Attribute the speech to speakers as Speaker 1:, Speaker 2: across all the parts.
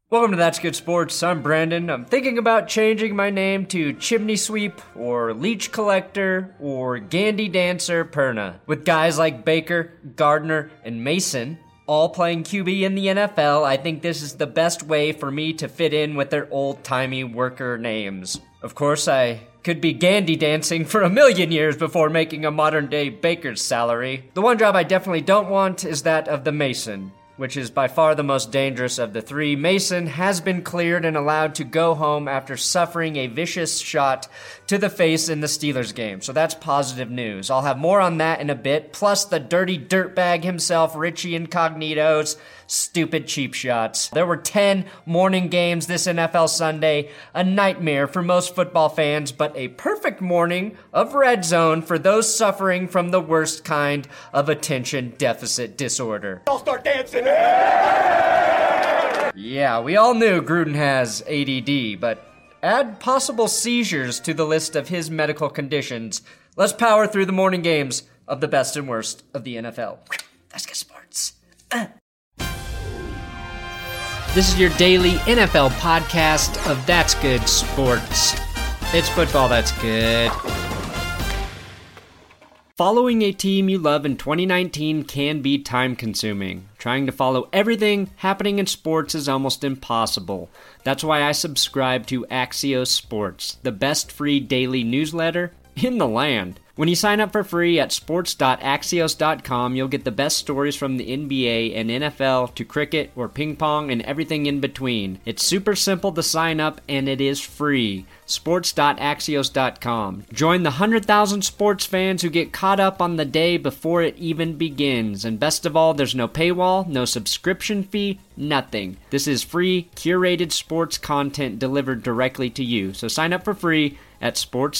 Speaker 1: Welcome to That's Good Sports. I'm Brandon. I'm thinking about changing my name to Chimney Sweep or Leech Collector or Gandy Dancer Perna. With guys like Baker, Gardner, and Mason all playing QB in the NFL, I think this is the best way for me to fit in with their old-timey worker names. Of course, I could be Gandy dancing for a million years before making a modern-day baker's salary. The one job I definitely don't want is that of the Mason, which is by far the most dangerous of the three. Mason has been cleared and allowed to go home after suffering a vicious shot to the face in the Steelers game, so that's positive news. I'll have more on that in a bit, plus the dirty dirtbag himself, Richie Incognito's stupid cheap shots. There were 10 morning games this NFL Sunday, a nightmare for most football fans, but a perfect morning of red zone for those suffering from the worst kind of attention deficit disorder.
Speaker 2: I'll start dancing.
Speaker 1: Yeah, we all knew Gruden has ADD, but add possible seizures to the list of his medical conditions. Let's power through the morning games of the best and worst of the NFL. That's good sports. This is your daily NFL podcast of That's Good Sports. It's football that's good. Following a team you love in 2019 can be time-consuming. Trying to follow everything happening in sports is almost impossible. That's why I subscribe to Axios Sports, the best free daily newsletter in the land. When you sign up for free at sports.axios.com, you'll get the best stories from the NBA and NFL to cricket or ping pong and everything in between. It's super simple to sign up and it is free. Sports.axios.com. Join the 100,000 sports fans who get caught up on the day before it even begins. And best of all, there's no paywall, no subscription fee, nothing. This is free, curated sports content delivered directly to you. So sign up for free at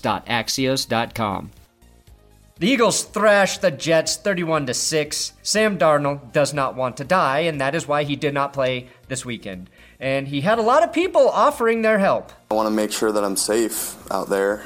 Speaker 1: sports.axios.com. The Eagles thrashed the Jets 31-6. Sam Darnold does not want to die, and that is why he did not play this weekend. And he had a lot of people offering their help.
Speaker 3: I want to make sure that I'm safe out there,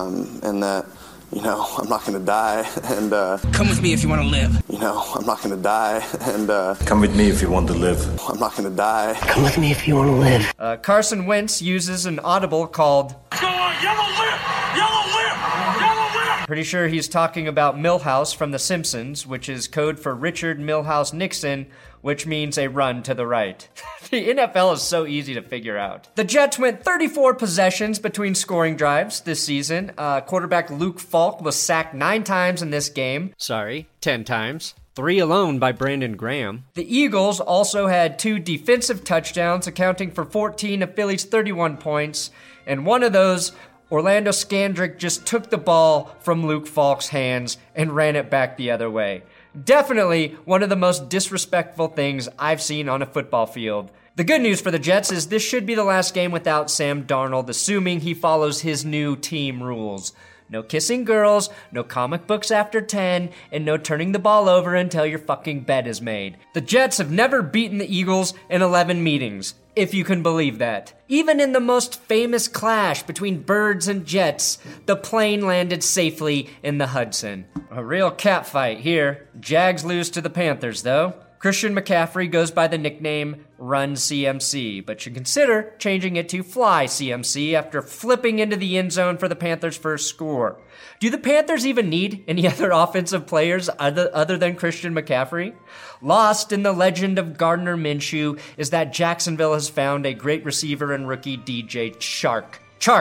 Speaker 3: and that, I'm not going to die. And
Speaker 2: come with me if you want to live.
Speaker 3: I'm not going to die. And
Speaker 4: come with me if you want to live.
Speaker 3: I'm not going to die.
Speaker 5: Come with me if you want to live.
Speaker 1: Carson Wentz uses an audible called
Speaker 2: Go on, yellow lip! Yellow lip! Yellow lip!
Speaker 1: Pretty sure he's talking about Milhouse from The Simpsons, which is code for Richard Milhouse Nixon, which means a run to the right. The NFL is so easy to figure out. The Jets went 34 possessions between scoring drives this season. Quarterback Luke Falk was sacked 9 times in this game. 10 times. 3 alone by Brandon Graham. The Eagles also had 2 defensive touchdowns, accounting for 14 of Philly's 31 points, and one of those, Orlando Scandrick just took the ball from Luke Falk's hands and ran it back the other way. Definitely one of the most disrespectful things I've seen on a football field. The good news for the Jets is this should be the last game without Sam Darnold, assuming he follows his new team rules. No kissing girls, no comic books after 10, and no turning the ball over until your fucking bed is made. The Jets have never beaten the Eagles in 11 meetings, if you can believe that. Even in the most famous clash between birds and jets, the plane landed safely in the Hudson. A real catfight here. Jags lose to the Panthers, though. Christian McCaffrey goes by the nickname Run CMC, but should consider changing it to Fly CMC after flipping into the end zone for the Panthers' first score. Do the Panthers even need any other offensive players other than Christian McCaffrey? Lost in the legend of Gardner Minshew is that Jacksonville has found a great receiver in rookie DJ Chark.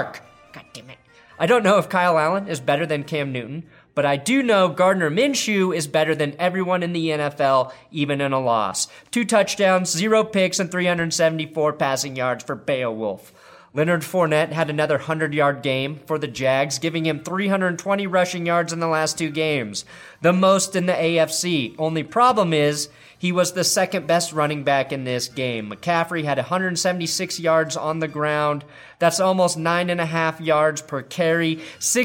Speaker 1: God damn it. I don't know if Kyle Allen is better than Cam Newton, but I do know Gardner Minshew is better than everyone in the NFL, even in a loss. 2 touchdowns, 0 picks, and 374 passing yards for Beowulf. Leonard Fournette had another 100-yard game for the Jags, giving him 320 rushing yards in the last 2 games, the most in the AFC. Only problem is, he was the second best running back in this game. McCaffrey had 176 yards on the ground. That's almost 9.5 yards per carry,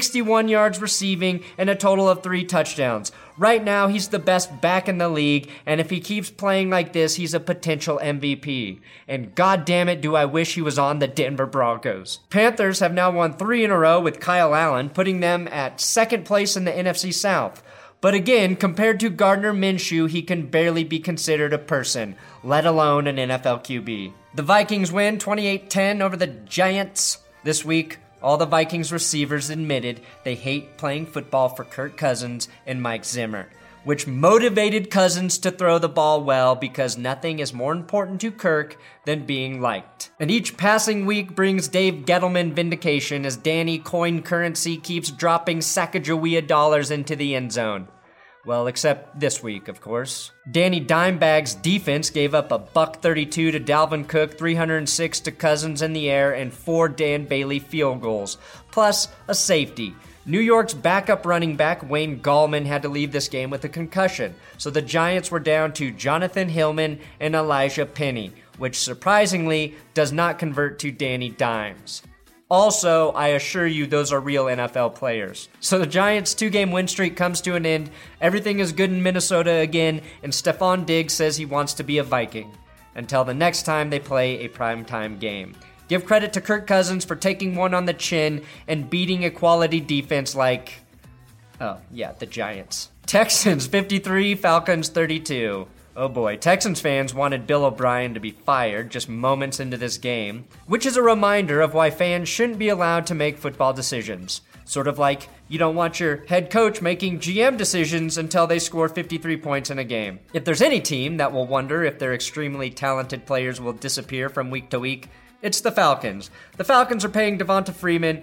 Speaker 1: 61 yards receiving, and a total of 3 touchdowns. Right now, he's the best back in the league, and if he keeps playing like this, he's a potential MVP. And god damn it, do I wish he was on the Denver Broncos. Panthers have now won 3 in a row with Kyle Allen, putting them at second place in the NFC South. But again, compared to Gardner Minshew, he can barely be considered a person, let alone an NFL QB. The Vikings win 28-10 over the Giants. This week, all the Vikings receivers admitted they hate playing football for Kirk Cousins and Mike Zimmer, which motivated Cousins to throw the ball well because nothing is more important to Kirk than being liked. And each passing week brings Dave Gettleman vindication as Danny Coin Currency keeps dropping Sacagawea dollars into the end zone. Well, except this week, of course. Danny Dimebag's defense gave up a $132 to Dalvin Cook, 306 to Cousins in the air, and 4 Dan Bailey field goals, plus a safety. New York's backup running back, Wayne Gallman, had to leave this game with a concussion, so the Giants were down to Jonathan Hillman and Elijah Penny, which surprisingly does not convert to Danny Dimes. Also, I assure you those are real NFL players. So the Giants' 2-game win streak comes to an end, everything is good in Minnesota again, and Stephon Diggs says he wants to be a Viking. Until the next time they play a primetime game. Give credit to Kirk Cousins for taking one on the chin and beating a quality defense like, the Giants. Texans 53, Falcons 32. Oh boy, Texans fans wanted Bill O'Brien to be fired just moments into this game, which is a reminder of why fans shouldn't be allowed to make football decisions. Sort of like you don't want your head coach making GM decisions until they score 53 points in a game. If there's any team that will wonder if their extremely talented players will disappear from week to week, it's the Falcons. The Falcons are paying Devonta Freeman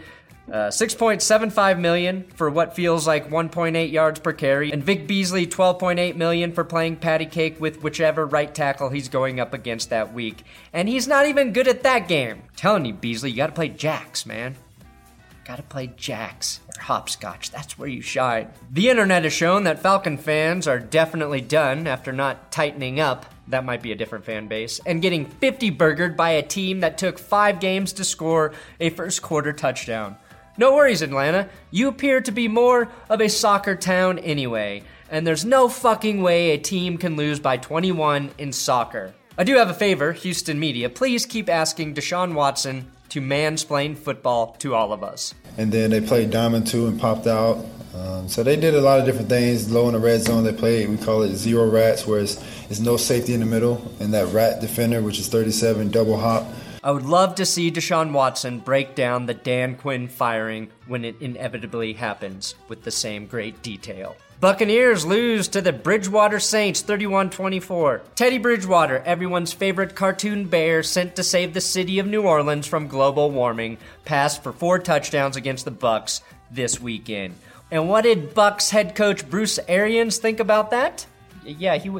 Speaker 1: $6.75 million for what feels like 1.8 yards per carry, and Vic Beasley $12.8 million for playing patty cake with whichever right tackle he's going up against that week. And he's not even good at that game. I'm telling you, Beasley, you gotta play jacks, man. Gotta play jacks or hopscotch. That's where you shine. The internet has shown that Falcon fans are definitely done after not tightening up. That might be a different fan base. And getting 50-burgered by a team that took 5 games to score a first quarter touchdown. No worries, Atlanta. You appear to be more of a soccer town anyway, and there's no fucking way a team can lose by 21 in soccer. I do have a favor, Houston media. Please keep asking Deshaun Watson to mansplain football to all of us.
Speaker 5: And then they played Diamond 2 and popped out. So they did a lot of different things. Low in the red zone, they played, we call it zero rats, where it's no safety in the middle, and that rat defender, which is 37, double hop.
Speaker 1: I would love to see Deshaun Watson break down the Dan Quinn firing when it inevitably happens with the same great detail. Buccaneers lose to the Bridgewater Saints 31-24. Teddy Bridgewater, everyone's favorite cartoon bear sent to save the city of New Orleans from global warming, passed for 4 touchdowns against the Bucs this weekend. And what did Bucs head coach Bruce Arians think about that? Yeah, he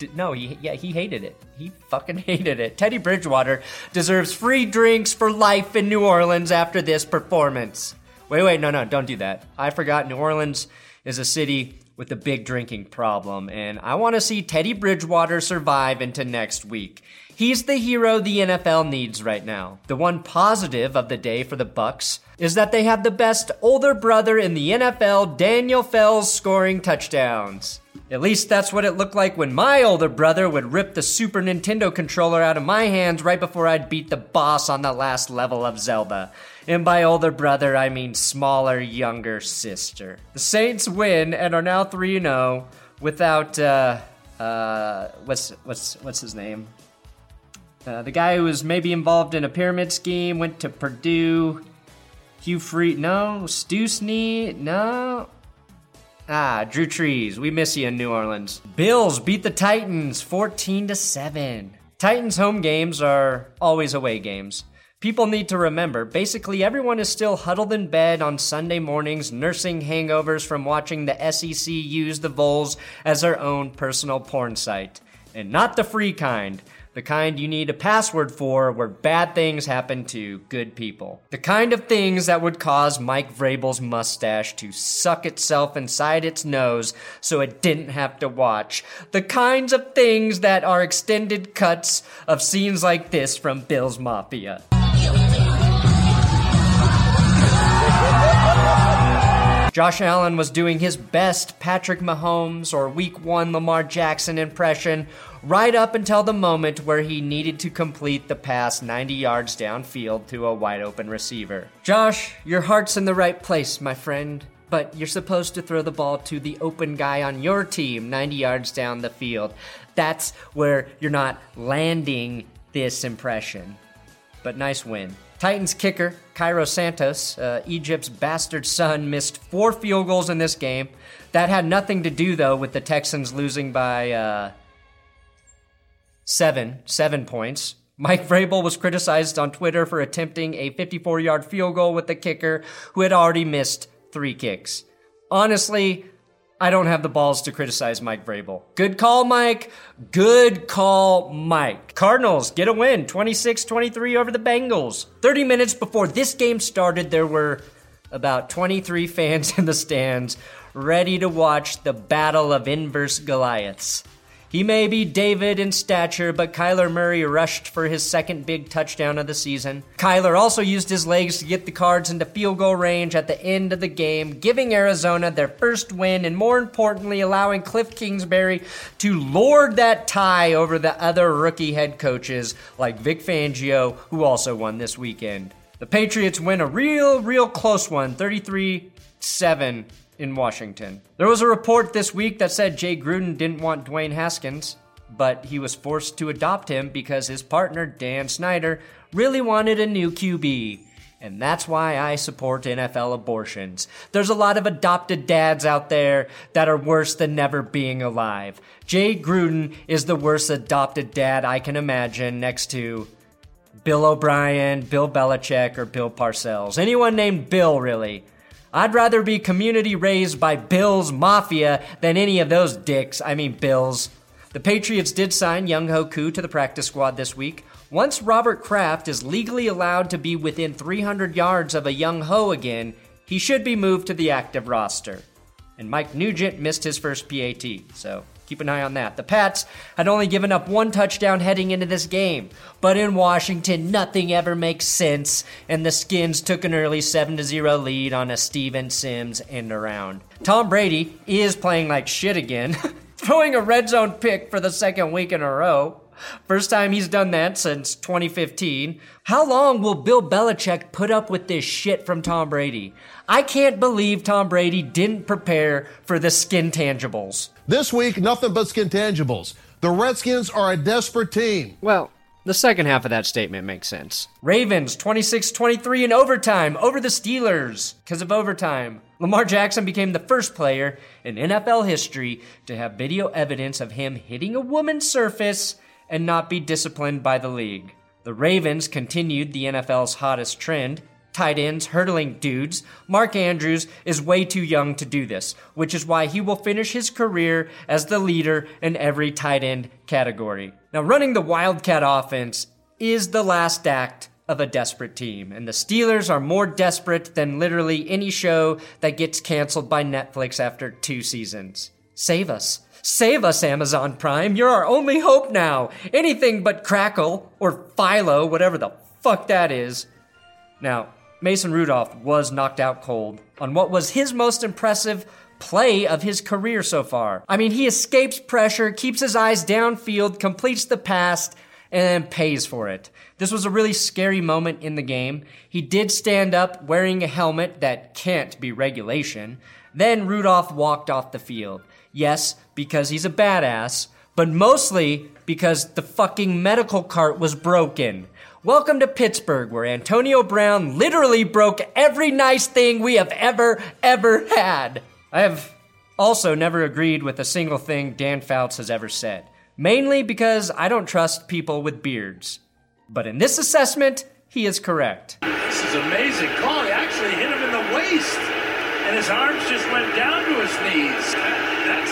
Speaker 1: hated it. He fucking hated it. Teddy Bridgewater deserves free drinks for life in New Orleans after this performance. Wait, no, don't do that. I forgot New Orleans is a city with a big drinking problem, and I want to see Teddy Bridgewater survive into next week. He's the hero the NFL needs right now. The one positive of the day for the Bucs is that they have the best older brother in the NFL, Daniel Fells, scoring touchdowns. At least that's what it looked like when my older brother would rip the Super Nintendo controller out of my hands right before I'd beat the boss on the last level of Zelda. And by older brother, I mean smaller, younger sister. The Saints win and are now 3-0 without, what's his name? The guy who was maybe involved in a pyramid scheme, went to Purdue. Hugh Freeze, no. Stusney, no. Drew Trees, we miss you in New Orleans. Bills beat the Titans 14-7. Titans home games are always away games. People need to remember, basically everyone is still huddled in bed on Sunday mornings nursing hangovers from watching the SEC use the Vols as their own personal porn site. And not the free kind. The kind you need a password for where bad things happen to good people. The kind of things that would cause Mike Vrabel's mustache to suck itself inside its nose so it didn't have to watch. The kinds of things that are extended cuts of scenes like this from Bill's Mafia. Josh Allen was doing his best Patrick Mahomes or Week 1 Lamar Jackson impression right up until the moment where he needed to complete the pass 90 yards downfield to a wide open receiver. Josh, your heart's in the right place, my friend, but you're supposed to throw the ball to the open guy on your team 90 yards down the field. That's where you're not landing this impression. But nice win. Titans kicker Cairo Santos, Egypt's bastard son, missed 4 field goals in this game. That had nothing to do, though, with the Texans losing by 7 points. Mike Vrabel was criticized on Twitter for attempting a 54-yard field goal with the kicker who had already missed 3 kicks. Honestly, I don't have the balls to criticize Mike Vrabel. Good call, Mike. Good call, Mike. Cardinals get a win, 26-23 over the Bengals. 30 minutes before this game started, there were about 23 fans in the stands ready to watch the battle of inverse Goliaths. He may be David in stature, but Kyler Murray rushed for his second big touchdown of the season. Kyler also used his legs to get the Cards into field goal range at the end of the game, giving Arizona their first win and, more importantly, allowing Cliff Kingsbury to lord that tie over the other rookie head coaches like Vic Fangio, who also won this weekend. The Patriots win a real close one, 33-7. in Washington. There was a report this week that said Jay Gruden didn't want Dwayne Haskins, but he was forced to adopt him because his partner, Dan Snyder, really wanted a new QB. And that's why I support NFL abortions. There's a lot of adopted dads out there that are worse than never being alive. Jay Gruden is the worst adopted dad I can imagine, next to Bill O'Brien, Bill Belichick, or Bill Parcells. Anyone named Bill, really. I'd rather be community raised by Bill's Mafia than any of those dicks. I mean, Bills. The Patriots did sign Younghoe Koo to the practice squad this week. Once Robert Kraft is legally allowed to be within 300 yards of a Younghoe again, he should be moved to the active roster. And Mike Nugent missed his first PAT, so keep an eye on that. The Pats had only given up 1 touchdown heading into this game, but in Washington, nothing ever makes sense, and the Skins took an early 7-0 lead on a Steven Sims end around. Tom Brady is playing like shit again, throwing a red zone pick for the second week in a row. First time he's done that since 2015. How long will Bill Belichick put up with this shit from Tom Brady? I can't believe Tom Brady didn't prepare for the skin tangibles.
Speaker 6: This week, nothing but skin tangibles. The Redskins are a desperate team.
Speaker 1: Well, the second half of that statement makes sense. Ravens 26-23 in overtime over the Steelers. Because of overtime, Lamar Jackson became the first player in NFL history to have video evidence of him hitting a woman's surface and not be disciplined by the league. The Ravens continued the NFL's hottest trend, tight ends hurdling dudes. Mark Andrews is way too young to do this, which is why he will finish his career as the leader in every tight end category. Now, running the Wildcat offense is the last act of a desperate team, and the Steelers are more desperate than literally any show that gets canceled by Netflix after 2 seasons. Save us. Save us, Amazon Prime. You're our only hope now. Anything but Crackle or Philo, whatever the fuck that is. Now, Mason Rudolph was knocked out cold on what was his most impressive play of his career so far. I mean, he escapes pressure, keeps his eyes downfield, completes the pass, and then pays for it. This was a really scary moment in the game. He did stand up wearing a helmet that can't be regulation. Then Rudolph walked off the field. Yes, because he's a badass, but mostly because the fucking medical cart was broken. Welcome to Pittsburgh, where Antonio Brown literally broke every nice thing we have ever had. I have also never agreed with a single thing Dan Fouts has ever said, mainly because I don't trust people with beards. But in this assessment, he is correct.
Speaker 2: This is amazing call. He actually hit him in the waist, and his arms just went down to his knees. That's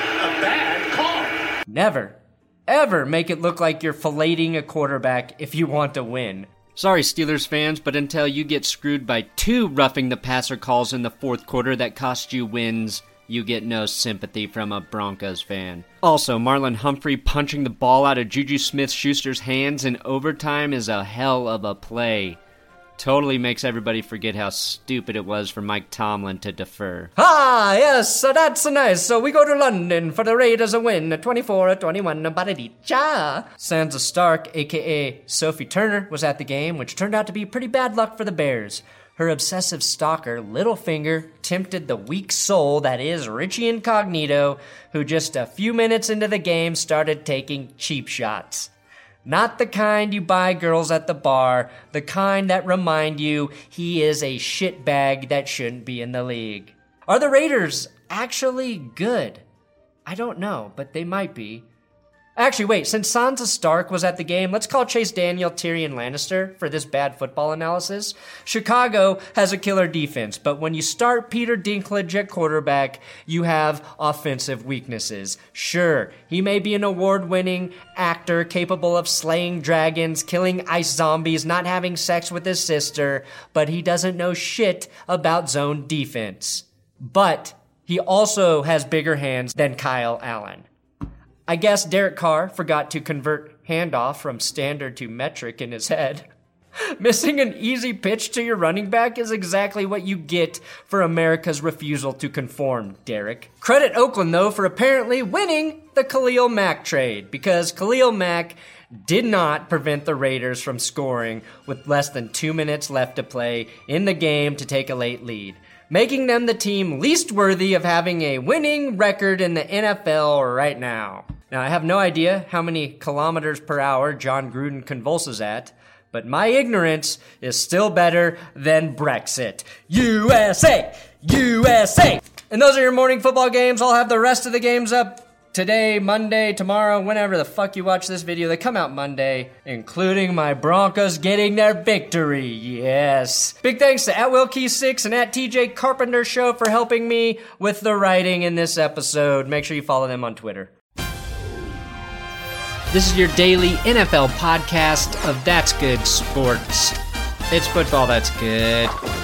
Speaker 2: a bad call.
Speaker 1: Never, ever make it look like you're filleting a quarterback if you want to win. Sorry, Steelers fans, but until you get screwed by 2 roughing the passer calls in the fourth quarter that cost you wins, you get no sympathy from a Broncos fan. Also, Marlon Humphrey punching the ball out of Juju Smith-Schuster's hands in overtime is a hell of a play. Totally makes everybody forget how stupid it was for Mike Tomlin to defer. Ah, yes, so that's nice. So we go to London for the Raiders a win, 24-21, Baradicha. Sansa Stark, a.k.a. Sophie Turner, was at the game, which turned out to be pretty bad luck for the Bears. Her obsessive stalker, Littlefinger, tempted the weak soul that is Richie Incognito, who just a few minutes into the game started taking cheap shots. Not the kind you buy girls at the bar, the kind that remind you he is a shitbag that shouldn't be in the league. Are the Raiders actually good? I don't know, but they might be. Actually, wait, since Sansa Stark was at the game, let's call Chase Daniel Tyrion Lannister for this bad football analysis. Chicago has a killer defense, but when you start Peter Dinklage at quarterback, you have offensive weaknesses. Sure, he may be an award-winning actor capable of slaying dragons, killing ice zombies, not having sex with his sister, but he doesn't know shit about zone defense. But he also has bigger hands than Kyle Allen. I guess Derek Carr forgot to convert handoff from standard to metric in his head. Missing an easy pitch to your running back is exactly what you get for America's refusal to conform, Derek. Credit Oakland, though, for apparently winning the Khalil Mack trade, because Khalil Mack did not prevent the Raiders from scoring with less than 2 minutes left to play in the game to take a late lead, making them the team least worthy of having a winning record in the NFL right now. Now, I have no idea how many kilometers per hour John Gruden convulses at, but my ignorance is still better than Brexit. USA! USA! And those are your morning football games. I'll have the rest of the games up today, Monday, tomorrow, whenever the fuck you watch this video. They come out Monday, including my Broncos getting their victory. Yes. Big thanks to @WillKey6 and @TJ Carpenter Show for helping me with the writing in this episode. Make sure you follow them on Twitter. This is your daily NFL podcast of That's Good Sports. It's football that's good.